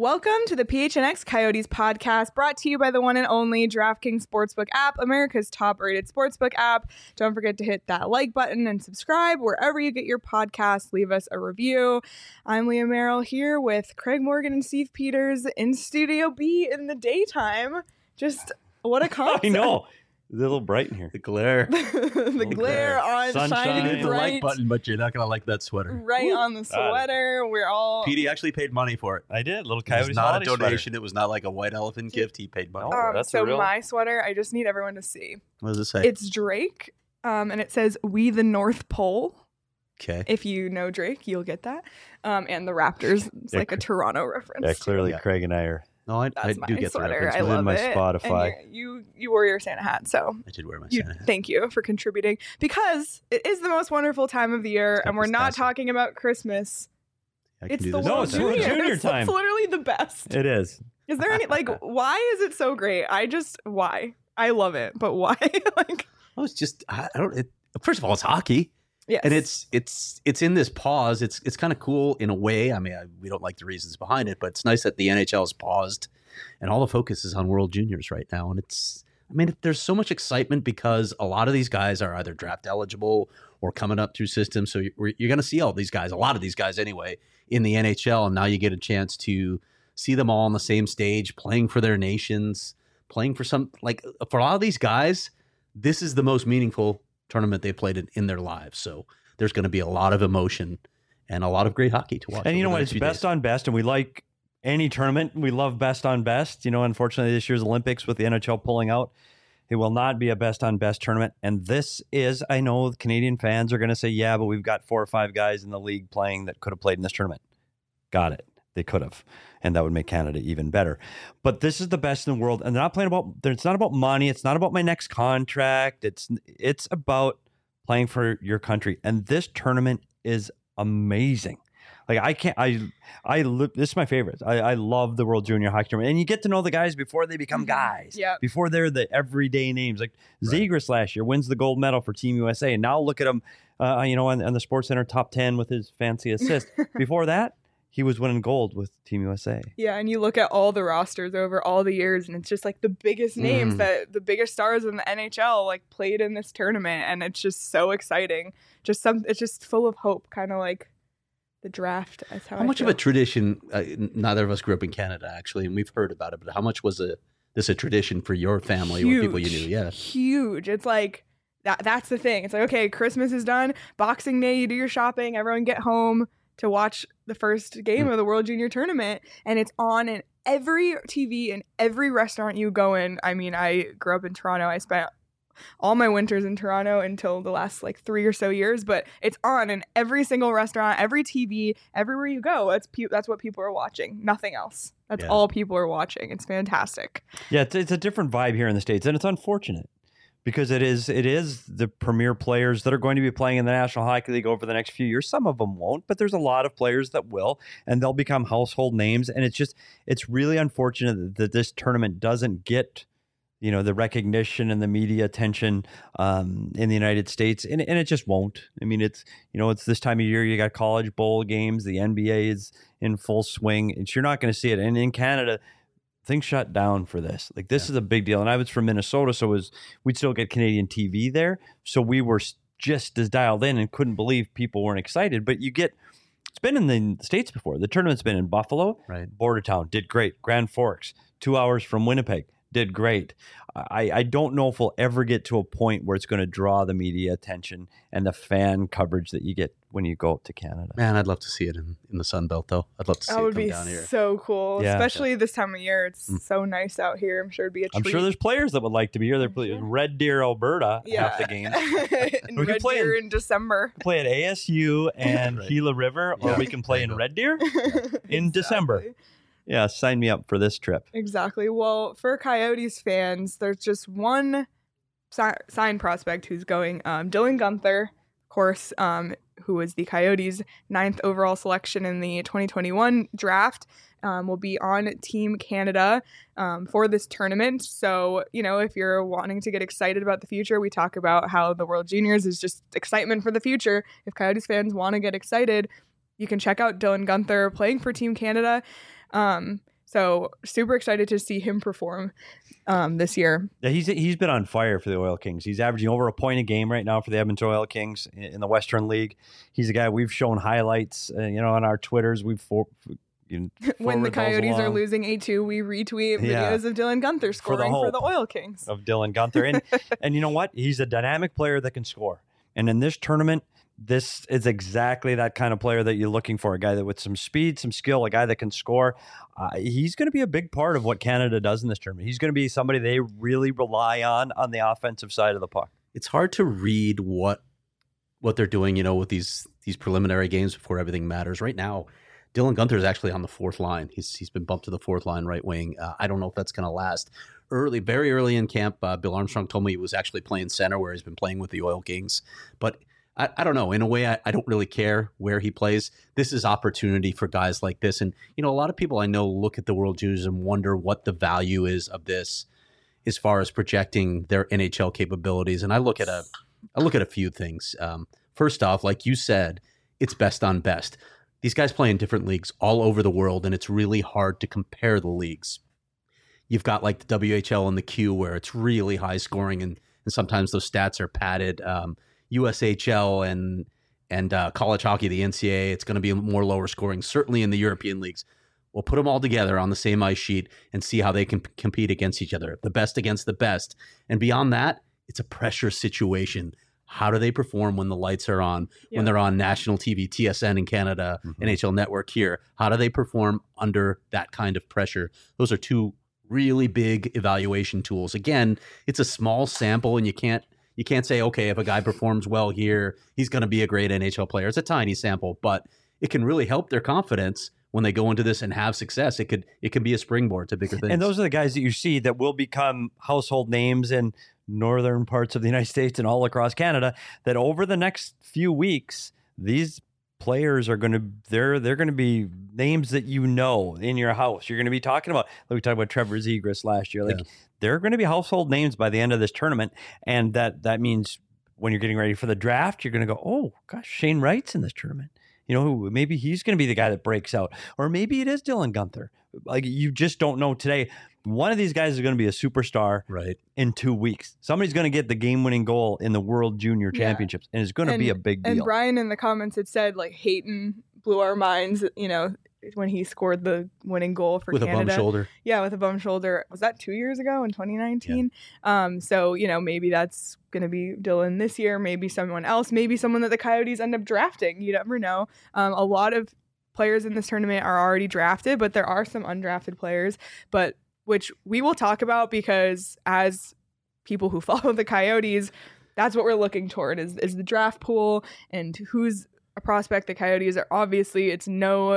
Welcome to the PHNX Coyotes podcast, brought to you by the one and only DraftKings Sportsbook app, America's top-rated sportsbook app. Don't forget to hit that like button and subscribe wherever you get your podcasts. Leave us a review. I'm Leah Merrill here with Craig Morgan and Steve Peters in Studio B in the daytime. Just what a concept. I know. It's a little bright in here. The glare. The glare on Sunshine. shining Hit the bright. like button, but you're not going to like that sweater. Right on the sweater. We're all... Petey actually paid money for it. I did. Little It was Coyotes not a holiday donation. sweater. It was not like a white elephant gift. He paid money. No. That's so a real- my sweater, I just need everyone to see. What does it say? It's Drake, and it says, "We the North Pole." Okay. If you know Drake, you'll get that. And the Raptors. It's Yeah, like a Toronto reference. Yeah, clearly Yeah. Craig and I are. No, I That's do my get the sweater. reference. I It's in love my it. Spotify. And you wore your Santa hat, so I did wear my you, Santa hat. thank you for contributing. Because it is the most wonderful time of the year, It's got and we're not pistachio. talking about Christmas. I can It's do the this No, World it's World Juniors. Junior time. It's literally the best. It is. Is there any, why is it so great? Why? I love it, but why? Oh, it's just I don't. First of all, it's hockey, Yes. and it's in this pause. It's kind of cool in a way. I mean, we don't like the reasons behind it, but it's nice that the NHL has paused, and all the focus is on World Juniors right now. And there's so much excitement because a lot of these guys are either draft eligible or coming up through systems. So you're going to see all these guys, a lot of these guys anyway, in the NHL, and now you get a chance to see them all on the same stage, playing for their nations, playing for for a lot of these guys. This is the most meaningful tournament they played in their lives. So there's going to be a lot of emotion and a lot of great hockey to watch. And you know over what? the It's next few best days. on best, and we like any tournament. We love best on best. You know, unfortunately, this year's Olympics with the NHL pulling out, it will not be a best on best tournament. And this is, I know Canadian fans are going to say, yeah, but we've got 4 or 5 guys in the league playing that could have played in this tournament. Got it. They could have. And that would make Canada even better. But this is the best in the world. And they're not playing it's not about money. It's not about my next contract. It's about playing for your country. And this tournament is amazing. Like this is my favorite. I love the World Junior Hockey Tournament. And you get to know the guys before they become guys. Yep. Before they're the everyday names. Like Zegras last year wins the gold medal for Team USA. And now look at him, on the SportsCenter top 10 with his fancy assist. Before that, he was winning gold with Team USA. Yeah, and you look at all the rosters over all the years, and it's just like the biggest names that the biggest stars in the NHL like played in this tournament, and it's just so exciting. It's just full of hope, kind of like the draft. That's how How much of a tradition? Neither of us grew up in Canada, actually, and we've heard about it. But how much was this a tradition for your family or people you knew? Yeah, huge. It's like that's the thing. It's like, okay, Christmas is done, Boxing Day, you do your shopping, everyone get home to watch the first game of the World Junior Tournament, and it's on in every TV and every restaurant you go in. I mean, I grew up in Toronto. I spent all my winters in Toronto until the last 3 or so years, but it's on in every single restaurant, every TV, everywhere you go. That's what people are watching. Nothing else. That's all people are watching. It's fantastic. Yeah, it's a different vibe here in the States, and it's unfortunate because it is the premier players that are going to be playing in the National Hockey League over the next few years. Some of them won't, but there's a lot of players that will, and they'll become household names. And it's really unfortunate that this tournament doesn't get the recognition and the media attention in the United States, and it just won't. I mean, it's this time of year. You got college bowl games. The NBA is in full swing. You're not going to see it. And in Canada, things shut down for this. This is a big deal. And I was from Minnesota, so we'd still get Canadian TV there. So we were just as dialed in and couldn't believe people weren't excited. But it's been in the States before. The tournament's been in Buffalo, right. Bordertown, did great. Grand Forks, 2 hours from Winnipeg, did great. I don't know if we'll ever get to a point where it's going to draw the media attention and the fan coverage that you get when you go up to Canada. Man, I'd love to see it in the Sun Belt, though. I'd love to see That it would come be down here. so cool, Yeah. especially this time of year. It's so nice out here. I'm sure it'd be a treat. I'm sure there's players that would like to be here. They're playing Red Deer, Alberta, half the games. in We can Red play Deer in December. Play at ASU and Right. Gila River, or Yeah. we can play in Red Deer in Exactly. December. Yeah, sign me up for this trip. Exactly. Well, for Coyotes fans, there's just one sign prospect who's going. Dylan Guenther, of course, who was the Coyotes' 9th overall selection in the 2021 draft, will be on Team Canada for this tournament. So, if you're wanting to get excited about the future, we talk about how the World Juniors is just excitement for the future. If Coyotes fans want to get excited, you can check out Dylan Guenther playing for Team Canada. So super excited to see him perform this year. Yeah, he's been on fire for the Oil Kings. He's averaging over a point a game right now for the Edmonton Oil Kings in the Western League. He's a guy we've shown highlights, on our Twitters. When the Coyotes are losing 8-2, we retweet videos of Dylan Guenther scoring for the Oil Kings. Of Dylan Guenther. And you know what? He's a dynamic player that can score. And in this tournament, this is exactly that kind of player that you're looking for, a guy that with some speed, some skill, a guy that can score. He's going to be a big part of what Canada does in this tournament. He's going to be somebody they really rely on the offensive side of the puck. It's hard to read what they're doing, with these preliminary games before everything matters. Right now, Dylan Guenther is actually on the fourth line. He's been bumped to the fourth line right wing. I don't know if that's going to last. Very early in camp, Bill Armstrong told me he was actually playing center where he's been playing with the Oil Kings. But I don't know. In a way, I don't really care where he plays. This is opportunity for guys like this. And, a lot of people I know look at the World Juniors and wonder what the value is of this as far as projecting their NHL capabilities. And I look at a few things. First off, like you said, it's best on best. These guys play in different leagues all over the world, and it's really hard to compare the leagues. You've got like the WHL and the Q where it's really high scoring, and sometimes those stats are padded. USHL and college hockey, the NCAA, it's going to be more lower scoring, certainly in the European leagues. We'll put them all together on the same ice sheet and see how they can compete against each other, the best against the best. And beyond that, it's a pressure situation. How do they perform when the lights are on, when they're on national TV, TSN in Canada, NHL Network here? How do they perform under that kind of pressure? Those are two really big evaluation tools. Again, it's a small sample, and you can't say, okay, if a guy performs well here, he's going to be a great NHL player. It's a tiny sample, but it can really help their confidence when they go into this and have success. It can be a springboard to bigger things. And those are the guys that you see that will become household names in northern parts of the United States and all across Canada, that over the next few weeks, these players are they're going to be names that in your house. You're going to be talking about, like we talked about Trevor Zegras last year. They're going to be household names by the end of this tournament. And that means when you're getting ready for the draft, you're going to go, oh gosh, Shane Wright's in this tournament. Maybe he's going to be the guy that breaks out, or maybe it is Dylan Guenther. Like, you just don't know today. One of these guys is going to be a superstar in 2 weeks. Somebody's going to get the game-winning goal in the World Junior Championships, and it's going to be a big deal. And Brian in the comments had said, like, Hayton blew our minds, when he scored the winning goal for Canada. With a bum shoulder. Yeah, with a bum shoulder. Was that 2 years ago in 2019? Yeah. So, maybe that's going to be Dylan this year, maybe someone else, maybe someone that the Coyotes end up drafting. You never know. A lot of players in this tournament are already drafted, but there are some undrafted players, which we will talk about, because as people who follow the Coyotes, that's what we're looking toward is the draft pool and who's a prospect the Coyotes are. Obviously, it's no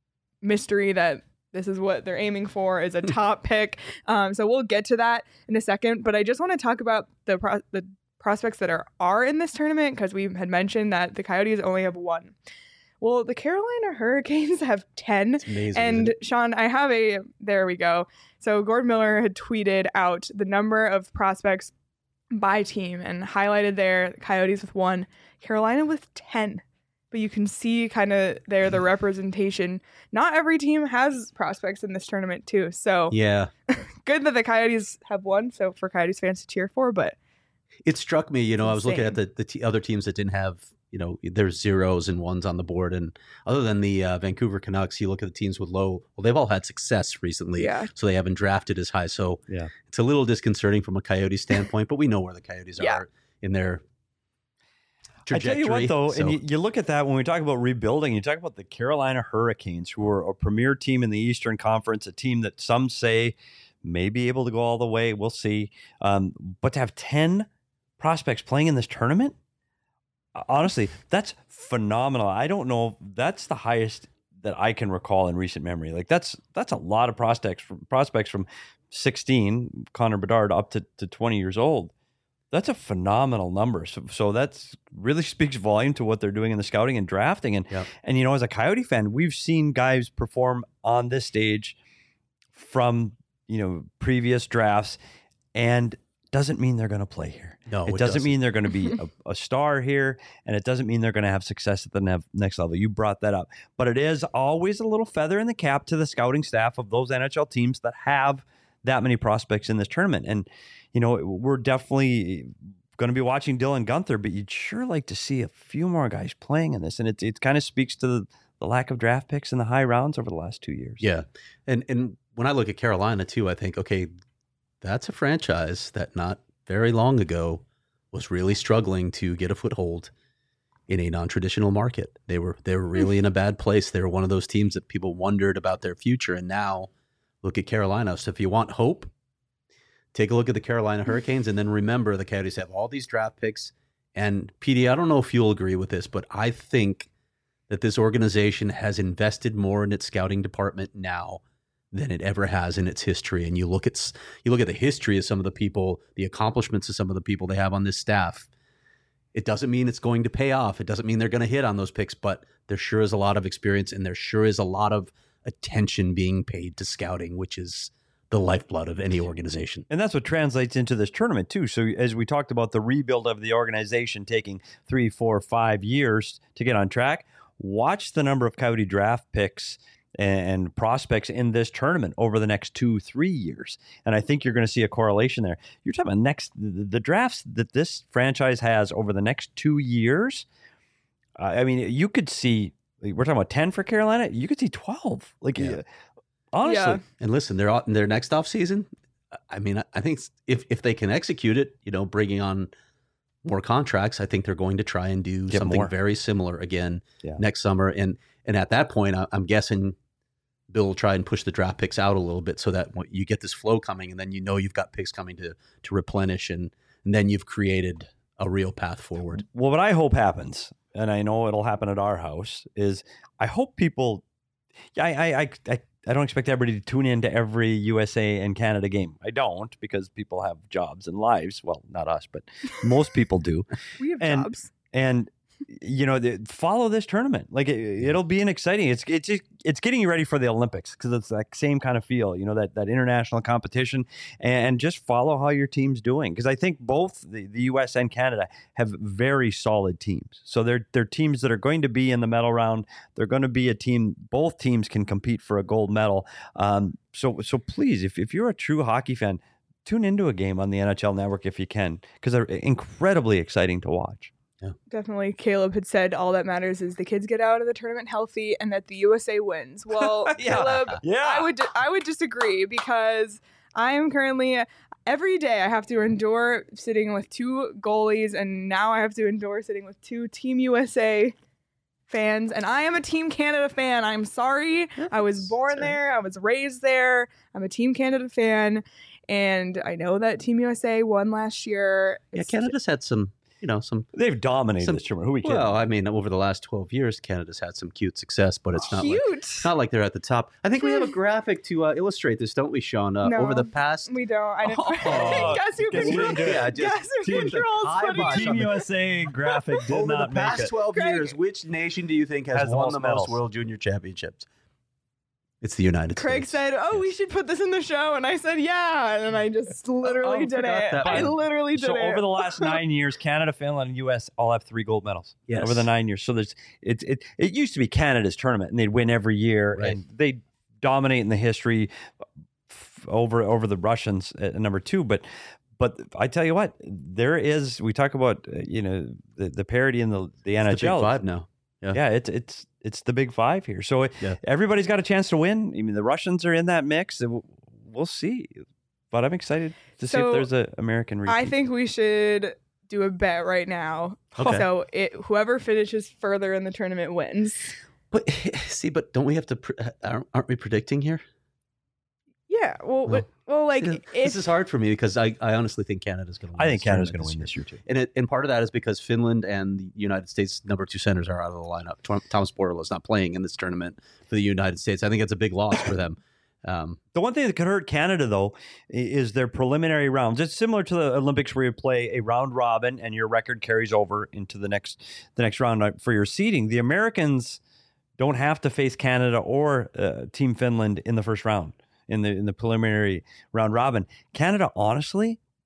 mystery that this is what they're aiming for, is a top pick. So we'll get to that in a second, but I just want to talk about the prospects that are in this tournament, because we had mentioned that the Coyotes only have one. Well, the Carolina Hurricanes have 10. It's amazing, and Sean, I have there we go. So Gord Miller had tweeted out the number of prospects by team and highlighted there Coyotes with 1, Carolina with 10. But you can see kind of there the representation. Not every team has prospects in this tournament too. So yeah, good that the Coyotes have 1. So for Coyotes fans to cheer for, but it struck me, I was looking at the other teams that didn't have, there's 0s and 1s on the board. And other than the Vancouver Canucks, you look at the teams with low, they've all had success recently. Yeah. So they haven't drafted as high. So it's a little disconcerting from a Coyote standpoint, but we know where the Coyotes are in their trajectory. I tell you what, though, and you look at that when we talk about rebuilding, you talk about the Carolina Hurricanes, who are a premier team in the Eastern Conference, a team that some say may be able to go all the way. We'll see. But to have 10 prospects playing in this tournament, honestly, that's phenomenal. I don't know. That's the highest that I can recall in recent memory. Like, that's a lot of prospects from 16, Connor Bedard, up to 20 years old. That's a phenomenal number. So that's really speaks volume to what they're doing in the scouting and drafting. And as a Coyote fan, we've seen guys perform on this stage from previous drafts, and doesn't mean they're going to play here. No, it doesn't mean they're going to be a star here, and it doesn't mean they're going to have success at the next level. You brought that up. But it is always a little feather in the cap to the scouting staff of those NHL teams that have that many prospects in this tournament. And, we're definitely going to be watching Dylan Guenther, but you'd sure like to see a few more guys playing in this. And it kind of speaks to the lack of draft picks in the high rounds over the last 2 years. Yeah. And when I look at Carolina too, I think, okay, that's a franchise that not very long ago was really struggling to get a foothold in a non-traditional market. They were really in a bad place. They were one of those teams that people wondered about their future. And now look at Carolina. So if you want hope, take a look at the Carolina Hurricanes, and then remember the Coyotes have all these draft picks. And PD, I don't know if you'll agree with this, but I think that this organization has invested more in its scouting department now than it ever has in its history. And you look at the history of some of the people, the accomplishments of some of the people they have on this staff. It doesn't mean it's going to pay off. It doesn't mean they're going to hit on those picks, but there sure is a lot of experience, and there sure is a lot of attention being paid to scouting, which is the lifeblood of any organization. And that's what translates into this tournament too. So as we talked about the rebuild of the organization taking 3, 4, 5 years to get on track, watch the number of Coyote draft picks and prospects in this tournament over the next 2-3 years. And I think you're going to see a correlation there. You're talking about the drafts that this franchise has over the next 2 years. I mean, you could see, we're talking about 10 for Carolina. You could see 12. Honestly. Yeah. And listen, they're out in their next offseason. I mean, I think if they can execute it, bringing on more contracts, I think they're going to try and do something very similar again next summer. And at that point, I'm guessing Bill will try and push the draft picks out a little bit so that you get this flow coming, and then you've got picks coming to replenish, and then you've created a real path forward. Well, what I hope happens, and I know it'll happen at our house, is I hope people. I don't expect everybody to tune in to every USA and Canada game. I don't, because people have jobs and lives. Well, not us, but most people do. We have jobs. And follow this tournament. Like it'll be an exciting. It's getting you ready for the Olympics, because it's that same kind of feel. That international competition, and just follow how your team's doing, because I think both the U.S. and Canada have very solid teams. So they're teams that are going to be in the medal round. They're going to be a team. Both teams can compete for a gold medal. So please, if you're a true hockey fan, tune into a game on the NHL Network if you can, because they're incredibly exciting to watch. Yeah. Definitely. Caleb had said all that matters is the kids get out of the tournament healthy and that the USA wins. Well, Caleb, I would disagree, because I am currently, every day I have to endure sitting with 2 goalies, and now I have to endure sitting with 2 Team USA fans, and I am a Team Canada fan. I'm sorry. I was born there. I was raised there. I'm a Team Canada fan, and I know that Team USA won last year. Canada's had some they've dominated this tournament. Who are we kidding? Well, I mean, over the last 12 years, Canada's had some cute success, but it's not like they're at the top. I think we have a graphic to illustrate this, don't we, Sean? No, over the past, we don't. I didn't. Guess who controls? Guess who controls? Team USA graphic did over not the past make it. 12 years, which nation do you think has won the most World Junior Championships? It's the United States. Craig said, we should put this in the show. And I said, yeah. And I just literally did it. I literally did it. So over the last 9 years, Canada, Finland, and U.S. all have 3 gold medals. Yes. Over the 9 years. So it used to be Canada's tournament, and they'd win every year. Right. And they dominate in the history over the Russians at number 2. But I tell you what, we talk about, the parity in the NHL. It's the Big Five now. Yeah, it's the Big Five here. So everybody's got a chance to win. I mean, the Russians are in that mix. We'll see. But I'm excited to see if there's an American repeat. I think we should do a bet right now. Okay. So whoever finishes further in the tournament wins. But don't we have to? Aren't we predicting here? Yeah. This is hard for me, because I honestly think Canada's going to win. I think Canada's going to win this year too. And part of that is because Finland and the United States number 2 centers are out of the lineup. Thomas Borla is not playing in this tournament for the United States. I think it's a big loss for them. The one thing that could hurt Canada, though, is their preliminary rounds. It's similar to the Olympics, where you play a round robin and your record carries over into the next round for your seeding. The Americans don't have to face Canada or Team Finland in the first round. In the preliminary round robin. Canada, honestly,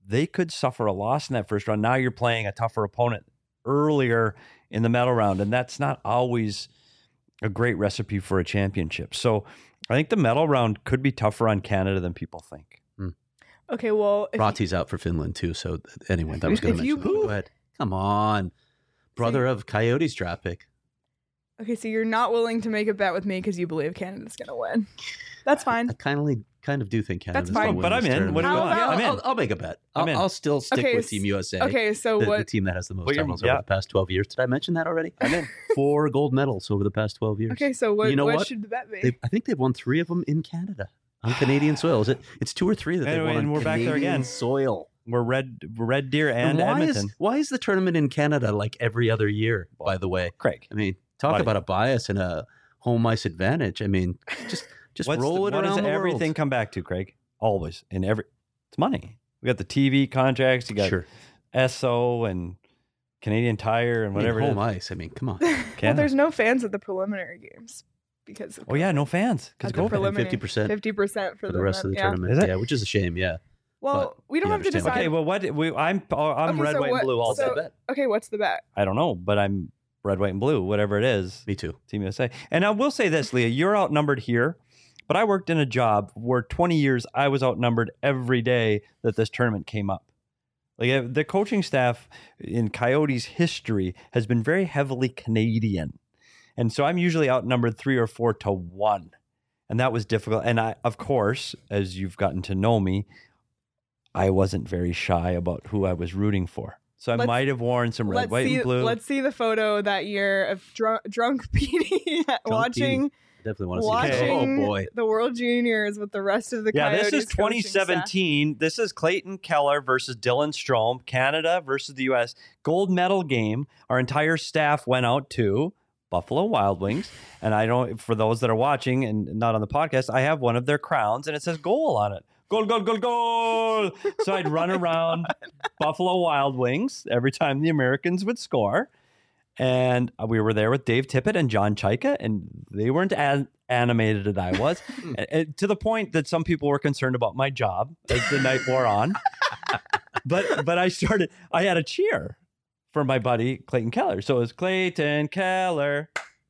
they could suffer a loss in that first round. Now you're playing a tougher opponent earlier in the medal round, and that's not always a great recipe for a championship. So I think the medal round could be tougher on Canada than people think. Okay, well, Rati's out for Finland too. So anyway, that was going to If you- mention. Go ahead. Come on, brother of Coyotes draft pick. okay, so you're not willing to make a bet with me because you believe Canada's going to win. That's fine. I kind of do think Canada's That's fine. gonna win But this I'm in. tournament. What do you How want? about- I'm in. I'll make a bet. I'm in. I'll still stick Okay, with Team USA. Okay, so the what? team that has the most Well, you're- titles yeah. over the past 12 years. Did I mention that already? I'm in. 4 gold medals over the past 12 years. Okay, so what? You know what what? should the bet be? I think they've won 3 of them in Canada on Canadian soil. It's 2 or 3 that they've Anyway, won and on we're back there Canadian again. soil. We're Red Deer and why Edmonton. why is the tournament in Canada like every other year? By the way, Craig, I mean, talk Buddy. about a bias and a home ice advantage. I mean, just roll it what around does the everything world. come back to, Craig? Always in every, it's money. We got the TV contracts. You got Sure. SO and Canadian Tire and whatever. home it is. ice. I mean, come on. well, Canada. there's no fans at the preliminary games because of Oh yeah, no fans because At the COVID. preliminary. 50% 50% for the rest of the yeah. tournament. Is it? Yeah, which is a shame. Yeah. Well, we don't you have to understand. decide. Okay, well, I'm Okay, red, so white, what- and blue also. so- Okay, what's the bet? I don't know, but I'm red, white, and blue, whatever it is. Me too. Team USA. And I will say this, Leah, you're outnumbered here, but I worked in a job where 20 years I was outnumbered every day that this tournament came up. Like the coaching staff in Coyotes history has been very heavily Canadian. And so I'm usually outnumbered 3 or 4 to 1. And that was difficult. And I, of course, as you've gotten to know me, I wasn't very shy about who I was rooting for. So I Let's- might have worn some red, white, see, and blue. Let's see the photo that year of drunk Petey watching Definitely want to see that. watching Oh boy. the World Juniors with the rest of the Yeah, Coyotes this is coaching staff. 2017. This is Clayton Keller versus Dylan Strome, Canada versus the U.S. Gold medal game. Our entire staff went out to Buffalo Wild Wings. And I don't, for those that are watching and not on the podcast, I have one of their crowns and it says goal on it. Goal, goal, goal, goal. So I'd run around Buffalo Wild Wings every time the Americans would score. And we were there with Dave Tippett and John Chaika, and they weren't as animated as I was, to the point that some people were concerned about my job as the night wore on. But I had a cheer for my buddy Clayton Keller. So it was Clayton Keller.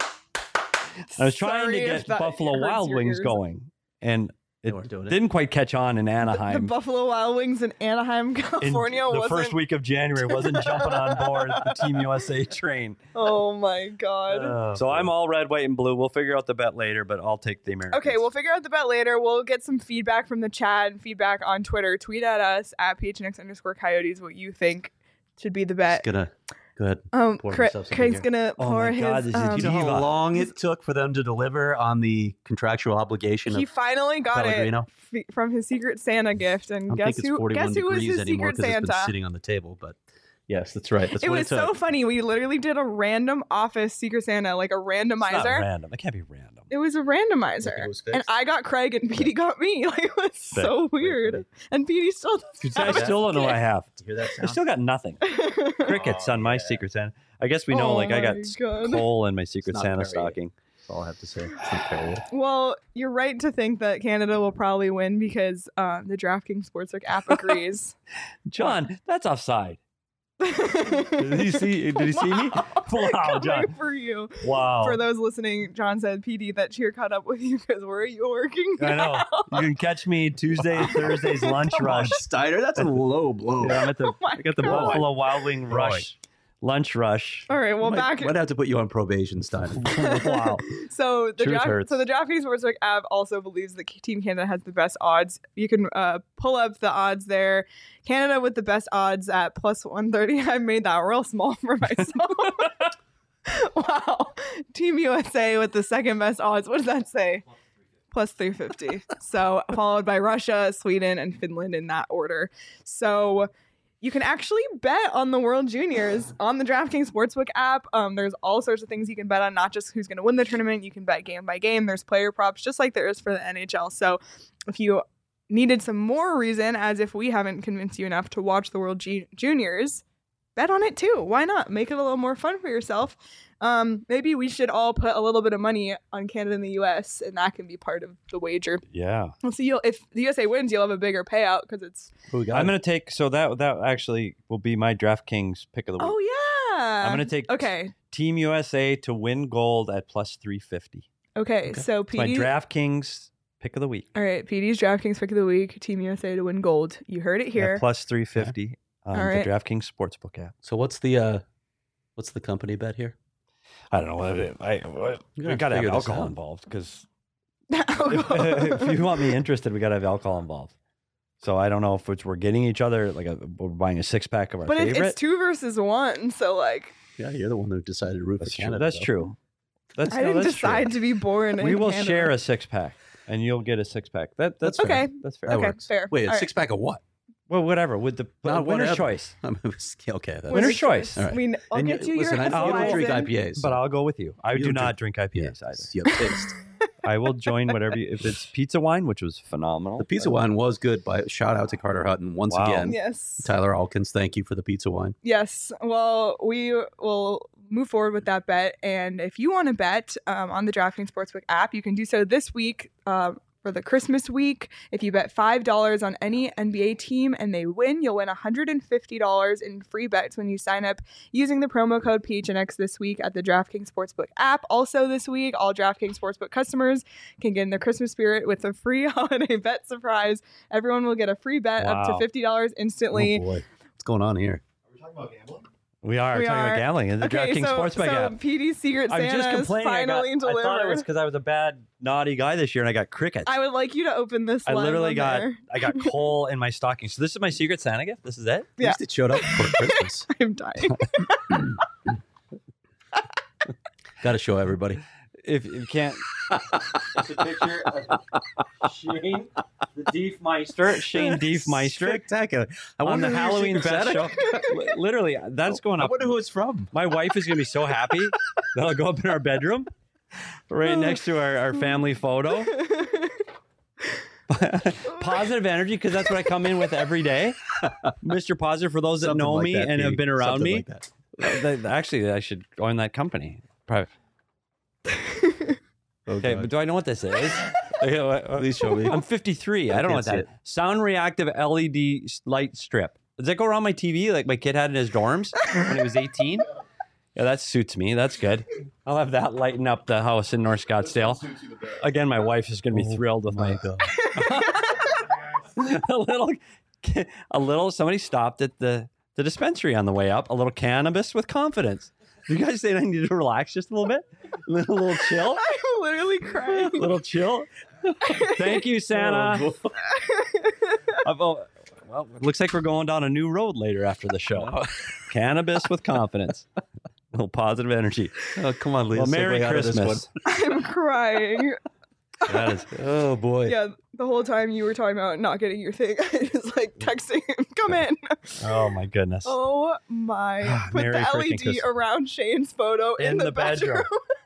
I was trying Sorry to if get that Buffalo hurts Wild your Wings ears. going, and They it weren't doing it. didn't quite catch on in The Anaheim. Buffalo Wild Wings in Anaheim, In California the wasn't. first week of January wasn't jumping on board the Team USA train. Oh my god. So I'm all red, white, and blue. We'll figure out the bet later, but I'll take the Americans. Okay, we'll figure out the bet later. We'll get some feedback from the chat and feedback on Twitter. Tweet at us at PHNX_Coyotes what you think should be the bet. Just gonna go ahead. Pour Craig's myself something here. gonna Oh pour my his. God, this is Do you know how Diva. long it took for them to deliver on the contractual obligation he of finally got Pellegrino? it from his Secret Santa gift, I and don't guess think it's who? 41 Guess who was degrees his anymore Secret because it's Santa? been sitting on the table. But yes, that's right. That's It what was it took. so funny. We literally did a random office Secret Santa, like a It's not randomizer. random. It can't be random. It was a randomizer, Like it was and fixed? I got Craig, and Petey got me. Like it was so weird. And Petey still doesn't I have still don't know what I have. Did you hear that I sound? still got nothing. it. Crickets on my Secret Santa. I guess we know, Oh like, I got my God. coal in my Secret not Santa very- stocking. That's all I have to say. It's not Perrier. Well, you're right to think that Canada will probably win because the DraftKings Sportsbook app agrees. John, that's offside. Did he see me? Wow, Coming John. for you. Wow. For those listening, John said, PD, that cheer caught up with you because where are you working I know. now?" You can catch me Tuesday, Thursday's lunch rush. Steiner, that's a low blow. Yeah, I'm at the, my I got the God. Buffalo Wild Wing rush, lunch rush. All right, well, back. Might have to put you on probation, Steiner. Wow. So the Truth hurts. DraftKings Sportsbook app also believes that Team Canada has the best odds. You can pull up the odds there. Canada with the best odds at plus 130. I made that real small for myself. Wow. Team USA with the second best odds. What does that say? Plus 350. So followed by Russia, Sweden, and Finland in that order. So you can actually bet on the World Juniors on the DraftKings Sportsbook app. There's all sorts of things you can bet on, not just who's going to win the tournament. You can bet game by game. There's player props, just like there is for the NHL. So if you needed some more reason, as if we haven't convinced you enough to watch the World Juniors, bet on it too. Why not? Make it a little more fun for yourself. Maybe we should all put a little bit of money on Canada and the U.S. and that can be part of the wager. Yeah. Well, so if the USA wins, you'll have a bigger payout because it's. I'm going to take, so that actually will be my DraftKings pick of the week. Oh yeah. I'm going to take Team USA to win gold at plus 350. Okay. So It's my DraftKings pick of the week. All right, PD's DraftKings pick of the week. Team USA to win gold. You heard it here. At plus 350 on All right. the DraftKings Sportsbook app. So what's the company bet here? I don't know. We got to have alcohol involved because if you want me interested, we got to have alcohol involved. So I don't know if we're getting each other, like we're buying a 6-pack of our favorite. But it's 2 versus 1, so like. Yeah, you're the one who decided to root for Canada. That's true. I didn't decide to be born in We will Canada. share a 6-pack, and you'll get a 6-pack. That's okay. Fair. That's fair. That Okay, works. fair. Wait, a All right. 6-pack of what? Well, whatever. With the Not winner's whatever. choice. Okay. That's, Winner's choice. All right. I'll And get you your listen, I don't drink Hefeweizen. IPAs. But I'll go with you. I You do don't not drink IPAs either. You have taste. I will join whatever if it's pizza wine, which was phenomenal. The pizza wine was good. Shout out to Carter Hutton once Wow. again. Yes. Tyler Alkins, thank you for the pizza wine. Yes. Well, we will move forward with that bet. And if you want to bet on the DraftKings Sportsbook app, you can do so this week for the Christmas week. If you bet $5 on any NBA team and they win, you'll win $150 in free bets when you sign up using the promo code PHNX this week at the DraftKings Sportsbook app. Also this week, all DraftKings Sportsbook customers can get in the Christmas spirit with a free holiday bet surprise. Everyone will get a free bet up to $50 instantly. Oh boy, what's going on here? Are we talking about gambling? We are talking about gambling in the DraftKings Sportsbook app. PD's Secret I was just Santa is complaining. finally I thought it was delivered. because I was a bad, naughty guy this year, and I got crickets. I would like you to open this. I live literally on got there. I got coal in my stocking. So this is my Secret Santa gift. This is it. At Yeah. least it showed up for Christmas. I'm dying. Got to show everybody. If you can't, it's a picture of Shane, the Diefmeister, Shane Diefmeister, Spectacular. I on wonder the who your Halloween Secret bet Santa- show. Literally, that's going I up. wonder who it's from. My wife is going to be so happy that I'll go up in our bedroom, right next to our family photo. Positive energy, because that's what I come in with every day. Mr. Positive, for those that Something know like me that, and have Pete. been around Something me. like that. Actually, I should join that company. Private. Oh, Okay, God. but do I know what this is? Please show me. I'm 53. I don't know what can't that see is. Sound reactive LED light strip. Does that go around my TV like my kid had in his dorms when he was 18? Yeah, that suits me. That's good. I'll have that lighten up the house in North Scottsdale. Suits you the best. Again, my wife is going to be thrilled with my God. a little. Somebody stopped at the dispensary on the way up. A little cannabis with confidence. You guys saying I need to relax just a little bit? A little chill? I'm literally crying. A little chill? Thank you, Santa. Well, it looks like we're going down a new road later after the show. Cannabis with confidence. A little positive energy. Oh, come on, Leah. Well, Merry segue out of this Christmas. I'm crying. That is, Oh, boy. Yeah, the whole time you were talking about not getting your thing, I was like texting him, come in. oh, my goodness. Oh my. Put Merry the freaking LED Christmas. around Shane's photo in the bedroom.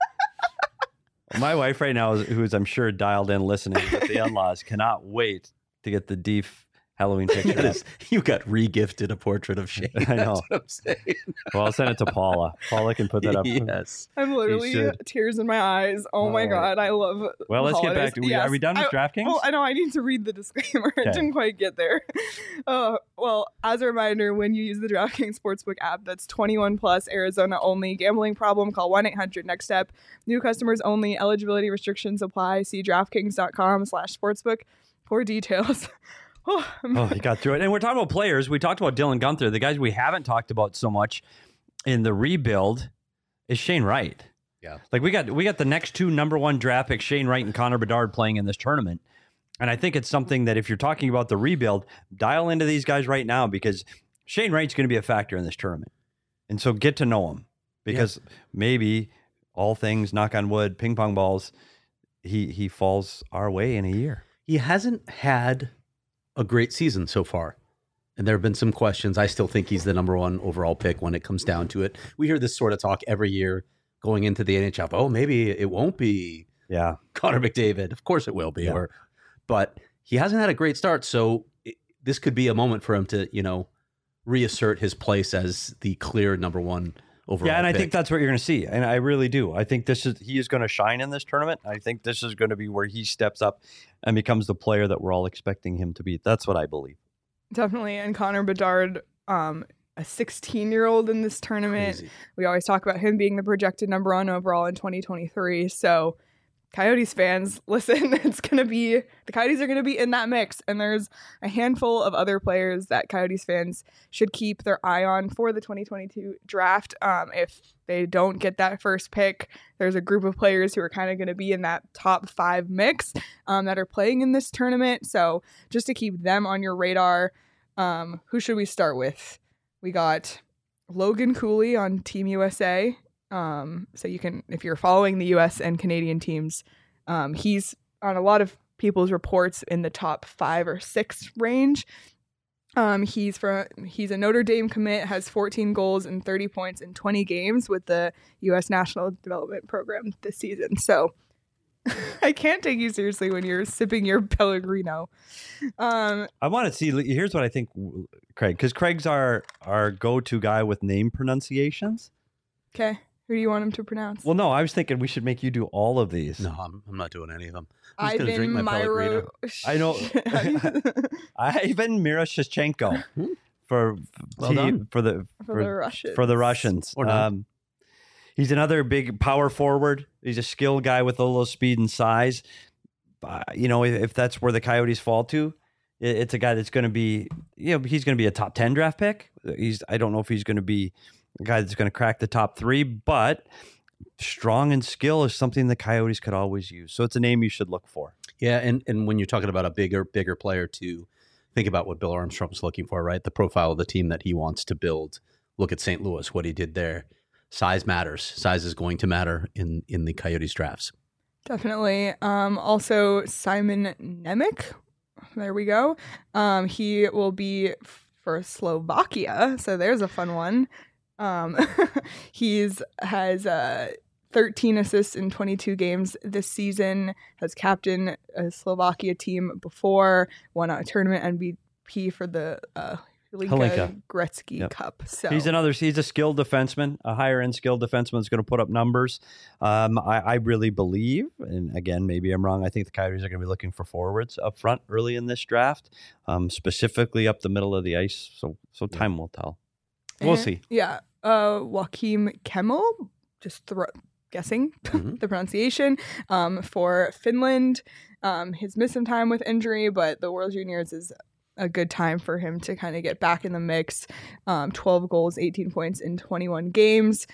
My wife right now, who's I'm sure dialed in listening with the in-laws, cannot wait to get the Deef Halloween picture. That is- you got regifted a portrait of Shane. I know. That's what I'm saying. Well, I'll send it to Paula. Paula can put that up. Yes. I'm literally should. tears in my eyes. Oh my All right. God, I love Well, let's get holidays. back to Yes. Are we done with DraftKings? Oh, I know. I need to read the disclaimer. Okay. I didn't quite get there. Well, as a reminder, when you use the DraftKings Sportsbook app, that's 21 plus, Arizona only. Gambling problem? Call 1-800-NEXT-STEP. New customers only. Eligibility restrictions apply. See DraftKings.com/sportsbook for details. Oh, you got through it. And we're talking about players. We talked about Dylan Gunther. The guys we haven't talked about so much in the rebuild is Shane Wright. Yeah. Like we got the next 2 number 1 draft picks, Shane Wright and Connor Bedard, playing in this tournament. And I think it's something that if you're talking about the rebuild, dial into these guys right now, because Shane Wright's going to be a factor in this tournament. And so get to know him, because maybe all things, knock on wood, ping pong balls, he falls our way in a year. He hasn't had a great season so far. And there have been some questions. I still think he's the number 1 overall pick when it comes down to it. We hear this sort of talk every year going into the NHL. Oh, maybe it won't be Yeah. Connor McDavid. Of course it will be. Yeah. But he hasn't had a great start. So this could be a moment for him to, reassert his place as the clear number one overall. Yeah, and I pick. think that's what you're going to see, and I really do. I think he is going to shine in this tournament. I think this is going to be where he steps up and becomes the player that we're all expecting him to be. That's what I believe. Definitely. And Connor Bedard, a 16-year-old in this tournament. Crazy. We always talk about him being the projected number 1 overall in 2023. So Coyotes fans, listen, the Coyotes are going to be in that mix. And there's a handful of other players that Coyotes fans should keep their eye on for the 2022 draft. If they don't get that first pick, there's a group of players who are kind of going to be in that top 5 mix that are playing in this tournament. So just to keep them on your radar, who should we start with? We got Logan Cooley on Team USA. So you can, if you're following the US and Canadian teams, he's on a lot of people's reports in the top 5 or 6 range. He's a Notre Dame commit, has 14 goals and 30 points in 20 games with the US National Development Program this season. So I can't take you seriously when you're sipping your Pellegrino. I want to see. Here's what I think, Craig, because Craig's our go-to guy with name pronunciations. Okay. Who do you want him to pronounce? Well, no, I was thinking we should make you do all of these. No, I'm not doing any of them. I'm just going to drink Ivan my Pellegrino. I know. Ivan Miroshnichenko for Well done. for the Russians. for the Russians. Or not. He's another big power forward. He's a skilled guy with a little speed and size. If that's where the Coyotes fall to, it's a guy that's going to be, he's going to be a top 10 draft pick. I don't know if he's going to be a guy that's going to crack the top 3, but strong and skill is something the Coyotes could always use. So it's a name you should look for. Yeah, and when you're talking about a bigger player, to think about what Bill Armstrong's looking for, right? The profile of the team that he wants to build. Look at St. Louis, what he did there. Size matters. Size is going to matter in the Coyotes drafts. Definitely. Also, Simon Nemec. There we go. He will be for Slovakia, so there's a fun one. He's has 13 assists in 22 games this season. Has captained a Slovakia team before. Won a tournament MVP for the Hlinka Gretzky Cup. So he's a skilled defenseman, a higher end skilled defenseman that's going to put up numbers. I really believe, and again, maybe I'm wrong, I think the Coyotes are going to be looking for forwards up front early in this draft, specifically up the middle of the ice. So time will tell. We'll see. Yeah. Joachim Kemmel, just guessing the pronunciation, for Finland. He's missed some time with injury, but the World Juniors is a good time for him to kind of get back in the mix. 12 goals, 18 points in 21 games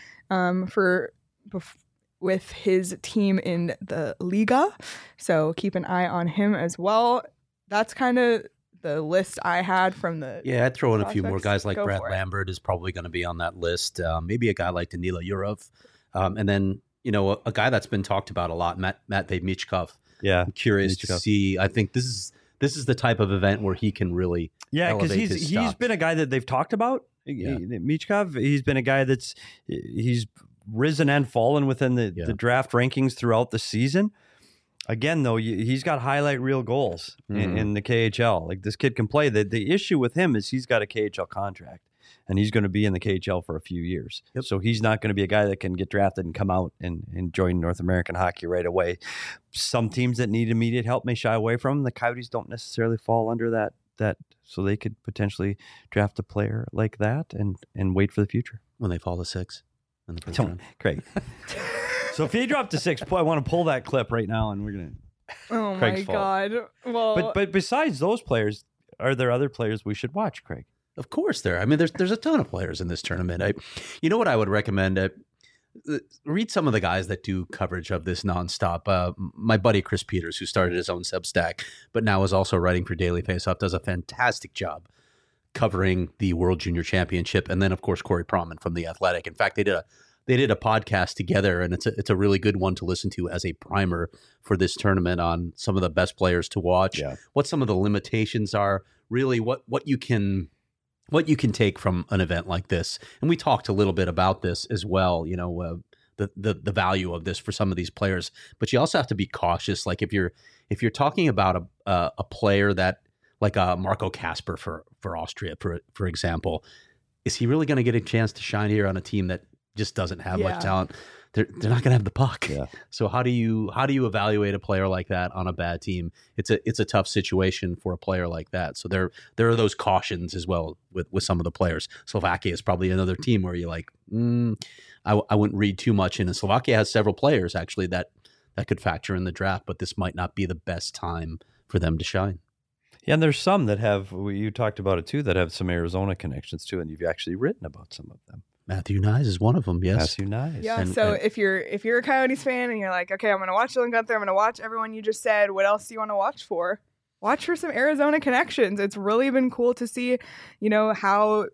with his team in the Liga. So keep an eye on him as well. That's kind of the list I had from the I'd throw in a few more prospects. guys like Go Brad for it. Lambert is probably going to be on that list. Maybe a guy like Danila Yurov. And then, a guy that's been talked about a lot, Matvei Michkov. Yeah. I'm curious to see. I think this is the type of event where he can really because elevate his he's stock. been a guy that they've talked about. Yeah. Michkov, he's been a guy he's risen and fallen within the draft rankings throughout the season. Again, though, he's got highlight reel goals in the KHL. Like, this kid can play. The issue with him is he's got a KHL contract, and he's going to be in the KHL for a few years. Yep. So he's not going to be a guy that can get drafted and come out and join North American hockey right away. Some teams that need immediate help may shy away from him. The Coyotes don't necessarily fall under that, so they could potentially draft a player like that and wait for the future. when they fall to 6 in the first round. Great. So if he dropped to 6, I want to pull that clip right now, and we're gonna. Oh Craig's my fault. God. Well, But besides those players, are there other players we should watch, Craig? Of course, there's a ton of players in this tournament. You know what I would recommend? Read some of the guys that do coverage of this nonstop. My buddy Chris Peters, who started his own Substack, but now is also writing for Daily Faceoff, does a fantastic job covering the World Junior Championship. And then, of course, Corey Proman from The Athletic. In fact, they did a podcast together, and it's a really good one to listen to as a primer for this tournament on some of the best players to watch, what some of the limitations are, really what you can take from an event like this. And we talked a little bit about this as well, the value of this for some of these players. But you also have to be cautious. Like if you're talking about a player that, like Marco Casper for Austria, for example. Is he really going to get a chance to shine here on a team that just doesn't have Yeah. much talent? They're not going to have the puck. Yeah. So how do you evaluate a player like that on a bad team? It's a tough situation for a player like that. So there are those cautions as well with some of the players. Slovakia is probably another team where you're like, I wouldn't read too much in. And Slovakia has several players actually that could factor in the draft, but this might not be the best time for them to shine. Yeah, and there's some that have, you talked about it too, that have some Arizona connections too, and you've actually written about some of them. Matthew Nyes is one of them. Yes. Matthew Nyes. Yeah. And- So and- if you're a Coyotes fan and you're like, okay, I'm gonna watch Dylan Gunther, I'm gonna watch everyone you just said. What else do you want to watch for? Watch for some Arizona connections. It's really been cool to see, how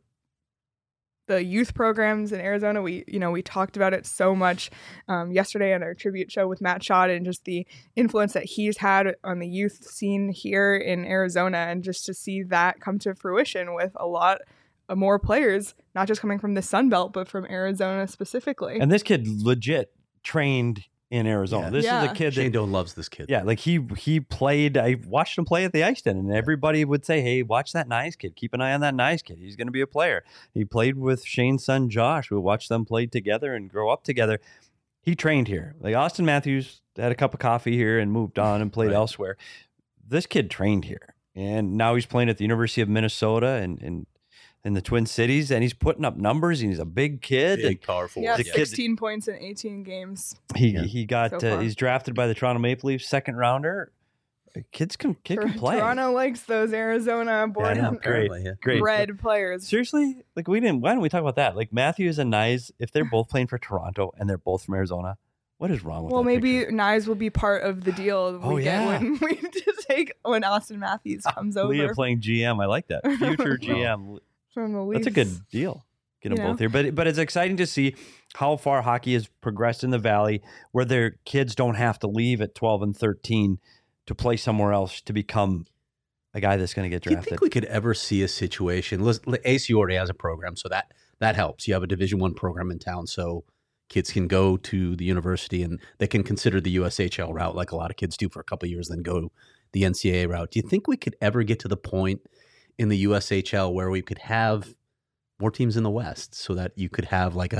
the youth programs in Arizona. We talked about it so much yesterday on our tribute show with Matt Schott, and just the influence that he's had on the youth scene here in Arizona, and just to see that come to fruition with a lot more players, not just coming from the Sun Belt, but from Arizona specifically. And this kid legit trained in Arizona. Yeah. This is Yeah. a kid Shane that, Doan loves this kid. yeah, like he played. I watched him play at the Ice Den, and everybody would say, "Hey, watch that Nyes kid. Keep an eye on that Nyes kid. He's going to be a player." He played with Shane's son Josh. We watched them play together and grow up together. He trained here. Like Austin Matthews had a cup of coffee here and moved on and played Right. elsewhere. This kid trained here, and now he's playing at the University of Minnesota and in the Twin Cities, and he's putting up numbers. And he's a big kid. Big, powerful. Yeah, the kid- 16 points in 18 games. Yeah. He got So far. he's drafted by the Toronto Maple Leafs, second rounder. Kid can play. Toronto likes those Arizona born Yeah, I know. and Great. Apparently, yeah. Great. bred players. Seriously, like why don't we talk about that? Like Matthews and Nyes, if they're both playing for Toronto and they're both from Arizona, what is wrong with Well, that maybe picture? Nyes will be part of the deal Oh, we yeah. get when we take when Austin Matthews comes Leah over playing GM. I like that. Future GM. from the Leafs. That's a good deal. Get them You know? both here. But it's exciting to see how far hockey has progressed in the Valley, where their kids don't have to leave at 12 and 13 to play somewhere else to become a guy that's going to get Do you drafted. think we could ever see a situation? ACU already has a program, so that helps. You have a Division I program in town, so kids can go to the university and they can consider the USHL route, like a lot of kids do for a couple of years, then go the NCAA route. Do you think we could ever get to the point in the USHL where we could have more teams in the West, so that you could have like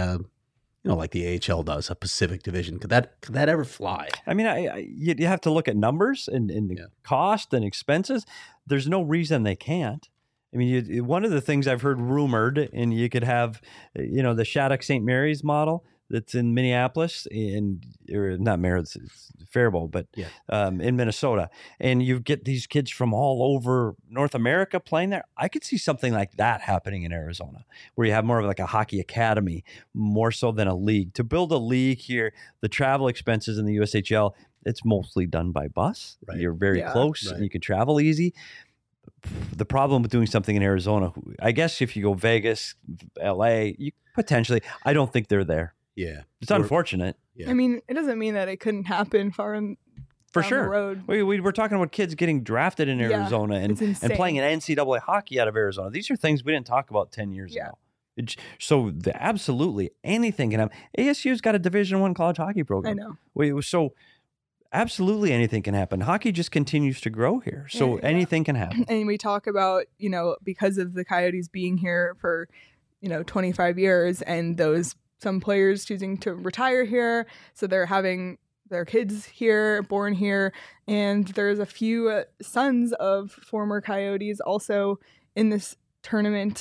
like the AHL does, a Pacific Division? Could that ever fly? I mean, you have to look at numbers and Yeah. cost and expenses. There's no reason they can't. I mean, one of the things I've heard rumored, and you could have, the Shattuck St. Mary's model that's in Minneapolis, or not Mary's, it's Faribault, but Yeah. in Minnesota, and you get these kids from all over North America playing there. I could see something like that happening in Arizona, where you have more of like a hockey academy, more so than a league. To build a league here, the travel expenses in the USHL, it's mostly done by bus. Right. You're very Yeah. close, Right. and you can travel easy. The problem with doing something in Arizona, I guess if you go Vegas, LA, you potentially, I don't think they're there. Yeah, It's unfortunate. Yeah. I mean, it doesn't mean that it couldn't happen far in For down sure. the road. We're talking about kids getting drafted in Yeah, Arizona it's and insane. playing an NCAA hockey out of Arizona. These are things we didn't talk about 10 years Yeah. ago. Absolutely anything can happen. ASU's got a Division I college hockey I program. know. So absolutely anything can happen. Hockey just continues to grow here. So Yeah. anything can happen. And we talk about, because of the Coyotes being here for, 25 years, and some players choosing to retire here. So they're having their kids here, born here. And there's a few sons of former Coyotes also in this tournament.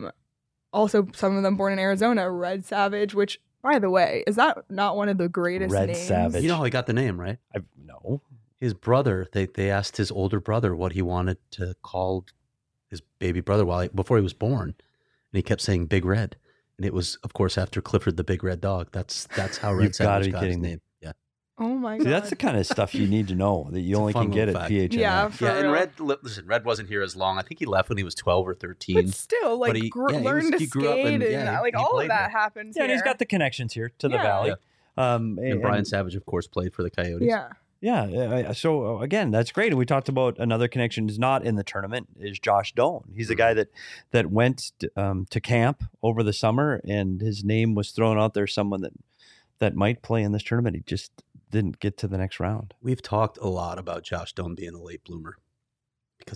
Also, some of them born in Arizona. Red Savage, which, by the way, is that not one of the greatest Red names? Savage. You know how he got the name, right? No. His brother, they asked his older brother what he wanted to call his baby brother before he was born, and he kept saying Big Red, and it was, of course, after Clifford the Big Red Dog. That's how Red You've gotta Savage be got his kidding me. name. Yeah, Oh my See, God. that's the kind of stuff you need to know that you It's a only fun can get little at fact. PHNX. Yeah, for and real. Red wasn't here as long. I think he left when he was 12 or 13. But still, like, But he learned to he grew up skate and, and, yeah, like he all of played that there. happens. Yeah, and he's here. got the connections here to the Yeah. Valley. And Brian Savage, of course, played for the Coyotes. Yeah. Yeah. So again, that's great. And we talked about another connection is not in the tournament is Josh Doan. He's a guy that went to camp over the summer, and his name was thrown out there. Someone that might play in this tournament. He just didn't get to the next round. We've talked a lot about Josh Doan being a late bloomer because he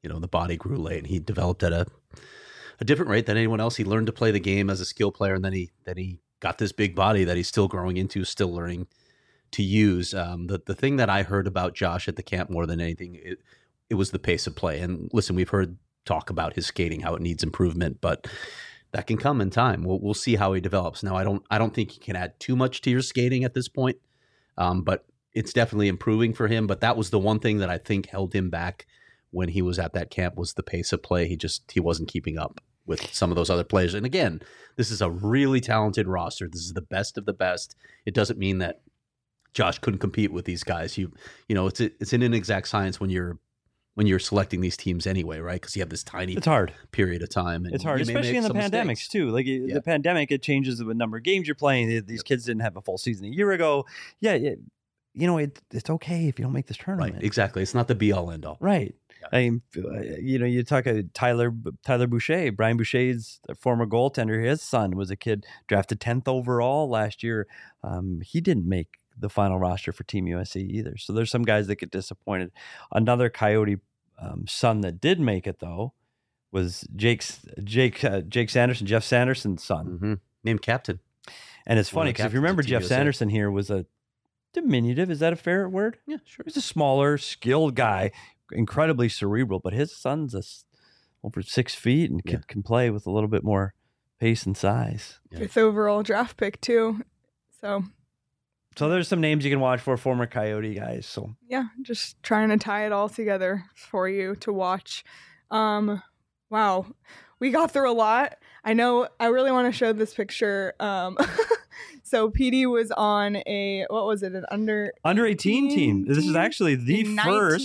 the body grew late, and he developed at a different rate than anyone else. He learned to play the game as a skill player, and then he got this big body that he's still growing into, still learning to use. The thing that I heard about Josh at the camp more than anything, it was the pace of play. And listen, we've heard talk about his skating, how it needs improvement, but that can come in time. We'll see how he develops. Now, I don't think he can add too much to your skating at this point, but it's definitely improving for him. But that was the one thing that I think held him back when he was at that camp, was the pace of play. He wasn't keeping up with some of those other players. And again, this is a really talented roster. This is the best of the best. It doesn't mean that Josh couldn't compete with these guys. It's an inexact science when you're selecting these teams anyway, right? Because you have this tiny It's hard. period of time. And It's hard, you may especially make in the some pandemics mistakes. too. Like the pandemic, it changes the number of games you're playing. These kids didn't have a full season a year ago. Yeah, it's okay if you don't make this tournament. Right, exactly. It's not the be all end all. Right. Yeah. I mean, you talk Tyler Boucher, Brian Boucher's former goaltender. His son was a kid drafted 10th overall last year. He didn't make the final roster for Team USA either. So there's some guys that get disappointed. Another Coyote son that did make it though was Jake Sanderson, Jeff Sanderson's son, Mm-hmm. Named captain. and it's One funny of the because if you captains remember, of Team Jeff USA. Sanderson here was a diminutive. Is that a fair word? Yeah, sure. He's a smaller, skilled guy, incredibly cerebral, but his son's over 6 feet and Yeah. can play with a little bit more pace and size. Yeah. 5th overall draft pick too. So So there's some names you can watch for, former Coyote guys. So yeah, just trying to tie it all together for you to watch. Wow, we got through a lot. I know I really want to show this picture. So PD was on an under under 18 team. This is team actually the in first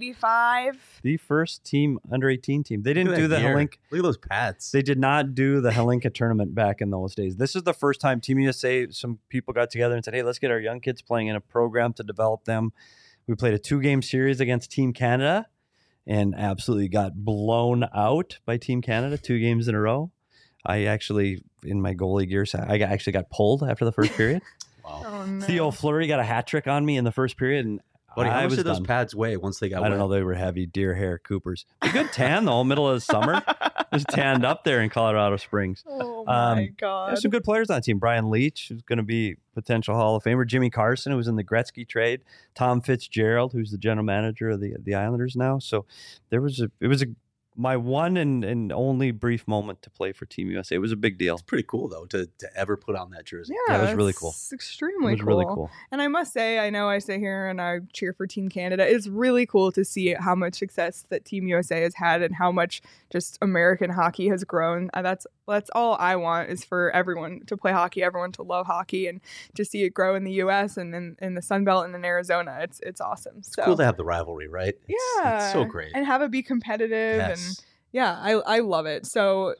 1985. team under 18 team. They didn't do the Helenka. Look at those pads. They did not do the Helenka tournament back in those days. This is the first time Team USA, some people got together and said, hey, let's get our young kids playing in a program to develop them. We played a 2-game series against Team Canada and absolutely got blown out by Team Canada 2 games in a row. I actually, in my goalie gears, I actually got pulled after the first period. Wow. Oh, no. Theo Fleury got a hat trick on me in the first period, and Buddy, how I much was did those done. pads weigh once they got I don't know. wet? They were heavy deer hair Coopers. A good tan though, middle of the summer. Just tanned up there in Colorado Springs. Oh my There's god. some good players on the team. Brian Leach, who's going to be potential Hall of Famer. Jimmy Carson, who was in the Gretzky trade. Tom Fitzgerald, who's the general manager of the Islanders now. So it was my one and only brief moment to play for Team USA. It was a big deal. It's pretty cool though to ever put on that jersey. Yeah, that was really cool. It's It extremely was cool. really cool. And I must say, I know I sit here and I cheer for Team Canada. It's really cool to see how much success that Team USA has had and how much just American hockey has grown. That's all I want, is for everyone to play hockey, everyone to love hockey, and to see it grow in the U.S. and in the Sun Belt and in Arizona. It's awesome. It's So cool to have the rivalry, right? yeah, It's so great. and have it be competitive and. Yes. Yeah, I love it. So,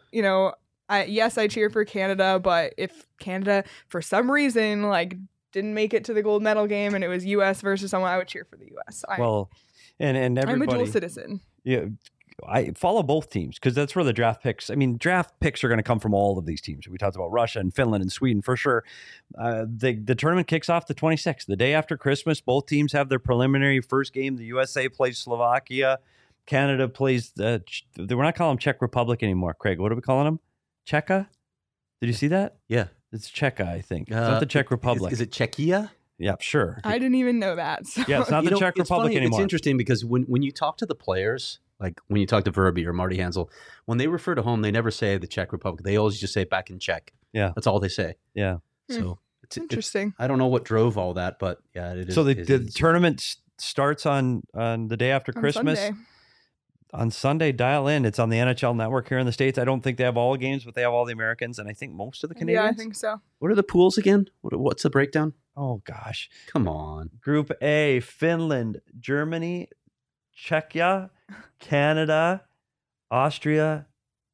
I cheer for Canada, but if Canada, for some reason, didn't make it to the gold medal game and it was U.S. versus someone, I would cheer for the U.S. Well, and I'm a everybody. dual citizen. Yeah, I follow both teams because that's where the draft picks. I mean, draft picks are going to come from all of these teams. We talked about Russia and Finland and Sweden for sure. The tournament kicks off the 26th, the day after Christmas. Both teams have their preliminary first game. The USA plays Slovakia. Canada plays we're not calling them Czech Republic anymore. Craig, what are we calling them? Czechia? Did you see that? Yeah. It's Czechia, I think. It's not the Czech Republic. Is it Czechia? Yeah, sure. I didn't even know that. So. Yeah, it's not the Czech it's Republic funny, anymore. It's interesting because when you talk to the players, like when you talk to Verby or Marty Hansel, when they refer to home, they never say the Czech Republic. They always just say back in Czech. Yeah. That's all they say. Yeah. So it's Interesting. I don't know what drove all that, but yeah, it is. So the it is. tournament starts on the day after On Christmas. Sunday. On Sunday, dial in. It's on the NHL Network here in the States. I don't think they have all games, but they have all the Americans and I think most of the Canadians. Yeah, I think so. What are the pools again? What's the breakdown? Oh, gosh. Come on. Group A, Finland, Germany, Czechia, Canada, Austria.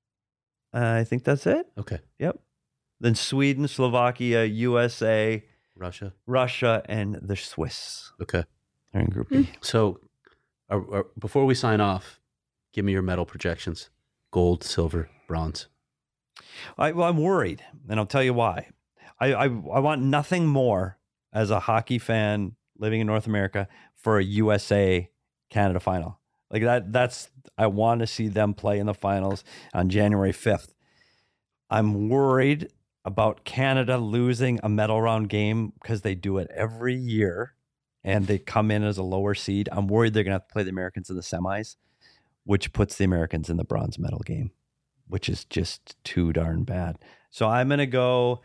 I think that's it. Okay. Yep. Then Sweden, Slovakia, USA, Russia. Russia, and the Swiss. Okay. They're in Group B. So before we sign off, give me your medal projections. Gold, silver, bronze. I'm worried, and I'll tell you why. I want nothing more as a hockey fan living in North America for a USA Canada final. Like that's I want to see them play in the finals on January 5th. I'm worried about Canada losing a medal round game because they do it every year and they come in as a lower seed. I'm worried they're going to have to play the Americans in the semis, which puts the Americans in the bronze medal game, which is just too darn bad. So I'm going to go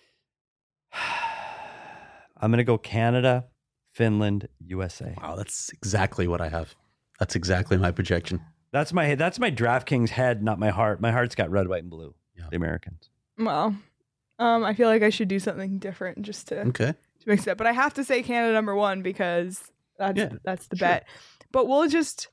Canada, Finland, USA. Wow, that's exactly what I have. That's exactly my projection. That's my DraftKings head, not my heart. My heart's got red, white, and blue. Yeah. The Americans. Well, I feel like I should do something different just to mix it up. But I have to say Canada number 1 because that's the bet. But we'll just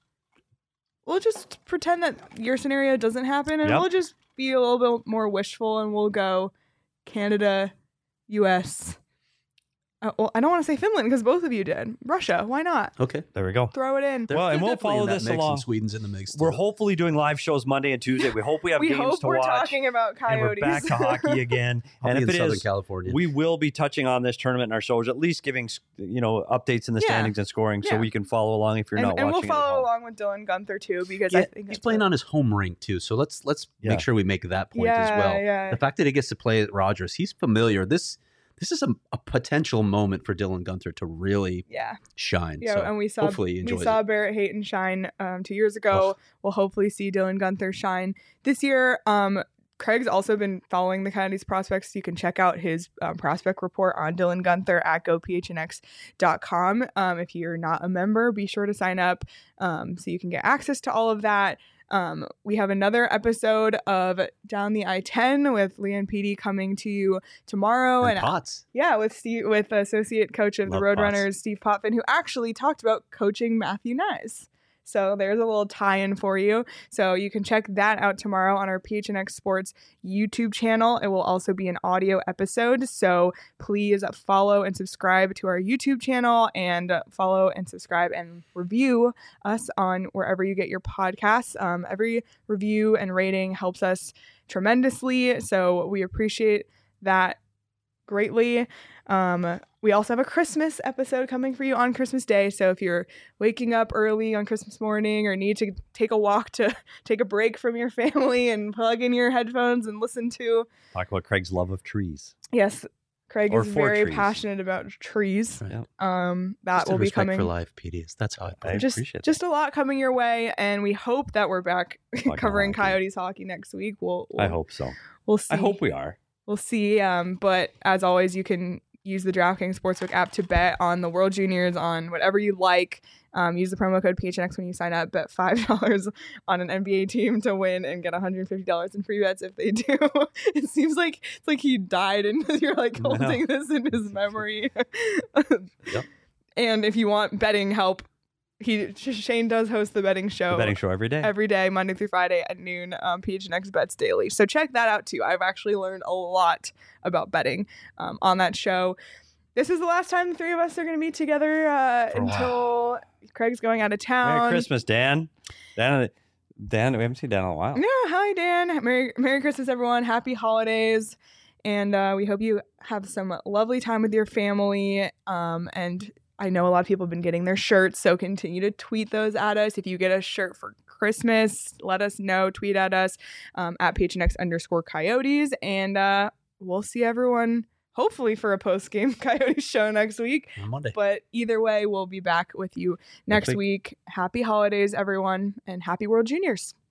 pretend that your scenario doesn't happen, and we'll just be a little bit more wishful, and we'll go Canada, U.S. Well, I don't want to say Finland because both of you did. Russia, why not? Okay. There we go. Throw it in. Well, and we'll follow this along. And Sweden's in the mix. We're hopefully doing live shows Monday and Tuesday. We hope we have games to watch. We're talking about Coyotes. And we're back to hockey again. And if in it Southern is, California. we will be touching on this tournament in our shows, at least giving updates in the standings and scoring, so we can follow along if you're not watching. And we'll it follow along with Dylan Gunther too, because I think he's playing on his home rink too. So let's make sure we make that point as well. Yeah. The fact that he gets to play at Rogers, he's familiar. This is a potential moment for Dylan Gunther to really shine. Yeah, so and we saw hopefully he enjoys it. Barrett Hayton shine 2 years ago. We'll hopefully see Dylan Gunther shine this year. Craig's also been following the Coyotes prospects. You can check out his prospect report on Dylan Gunther at gophnx.com. If you're not a member, be sure to sign up so you can get access to all of that. We have another episode of Down the I-10 with Leanne Petey coming to you tomorrow. And Potts. Yeah, with associate coach of the Roadrunners, Steve Potvin, who actually talked about coaching Matthew Nyes. So there's a little tie-in for you. So you can check that out tomorrow on our PHNX Sports YouTube channel. It will also be an audio episode. So please follow and subscribe to our YouTube channel, and follow and subscribe and review us on wherever you get your podcasts. Every review and rating helps us tremendously. So we appreciate that greatly. We also have a Christmas episode coming for you on Christmas Day. So if you're waking up early on Christmas morning or need to take a walk to take a break from your family and plug in your headphones and listen to... Talk about Craig's love of trees. Yes, Craig is very trees. Passionate about trees. Right. That will be coming. For life, PDs. That's how I put it. Appreciate just a lot coming your way, and we hope that we're back covering Coyotes hockey next week. I hope so. We'll see. I hope we are. We'll see. But as always, you can use the DraftKings Sportsbook app to bet on the World Juniors, on whatever you like. Use the promo code PHNX when you sign up. Bet $5 on an NBA team to win and get $150 in free bets if they do. It seems like it's like he died and you're like holding this in his memory. Yep. And if you want betting help, Shane does host the betting show. The betting show every day, Monday through Friday at noon. PHNX Bets Daily. So check that out too. I've actually learned a lot about betting on that show. This is the last time the three of us are going to be together until Craig's going out of town. Merry Christmas, Dan. Dan, we haven't seen Dan in a while. Yeah, hi Dan. Merry Christmas, everyone. Happy holidays, and we hope you have some lovely time with your family. And I know a lot of people have been getting their shirts, so continue to tweet those at us. If you get a shirt for Christmas, let us know. Tweet at us at PHNX_Coyotes. And we'll see everyone hopefully for a post-game Coyotes show next week. On Monday. But either way, we'll be back with you next week. Happy holidays, everyone, and happy World Juniors.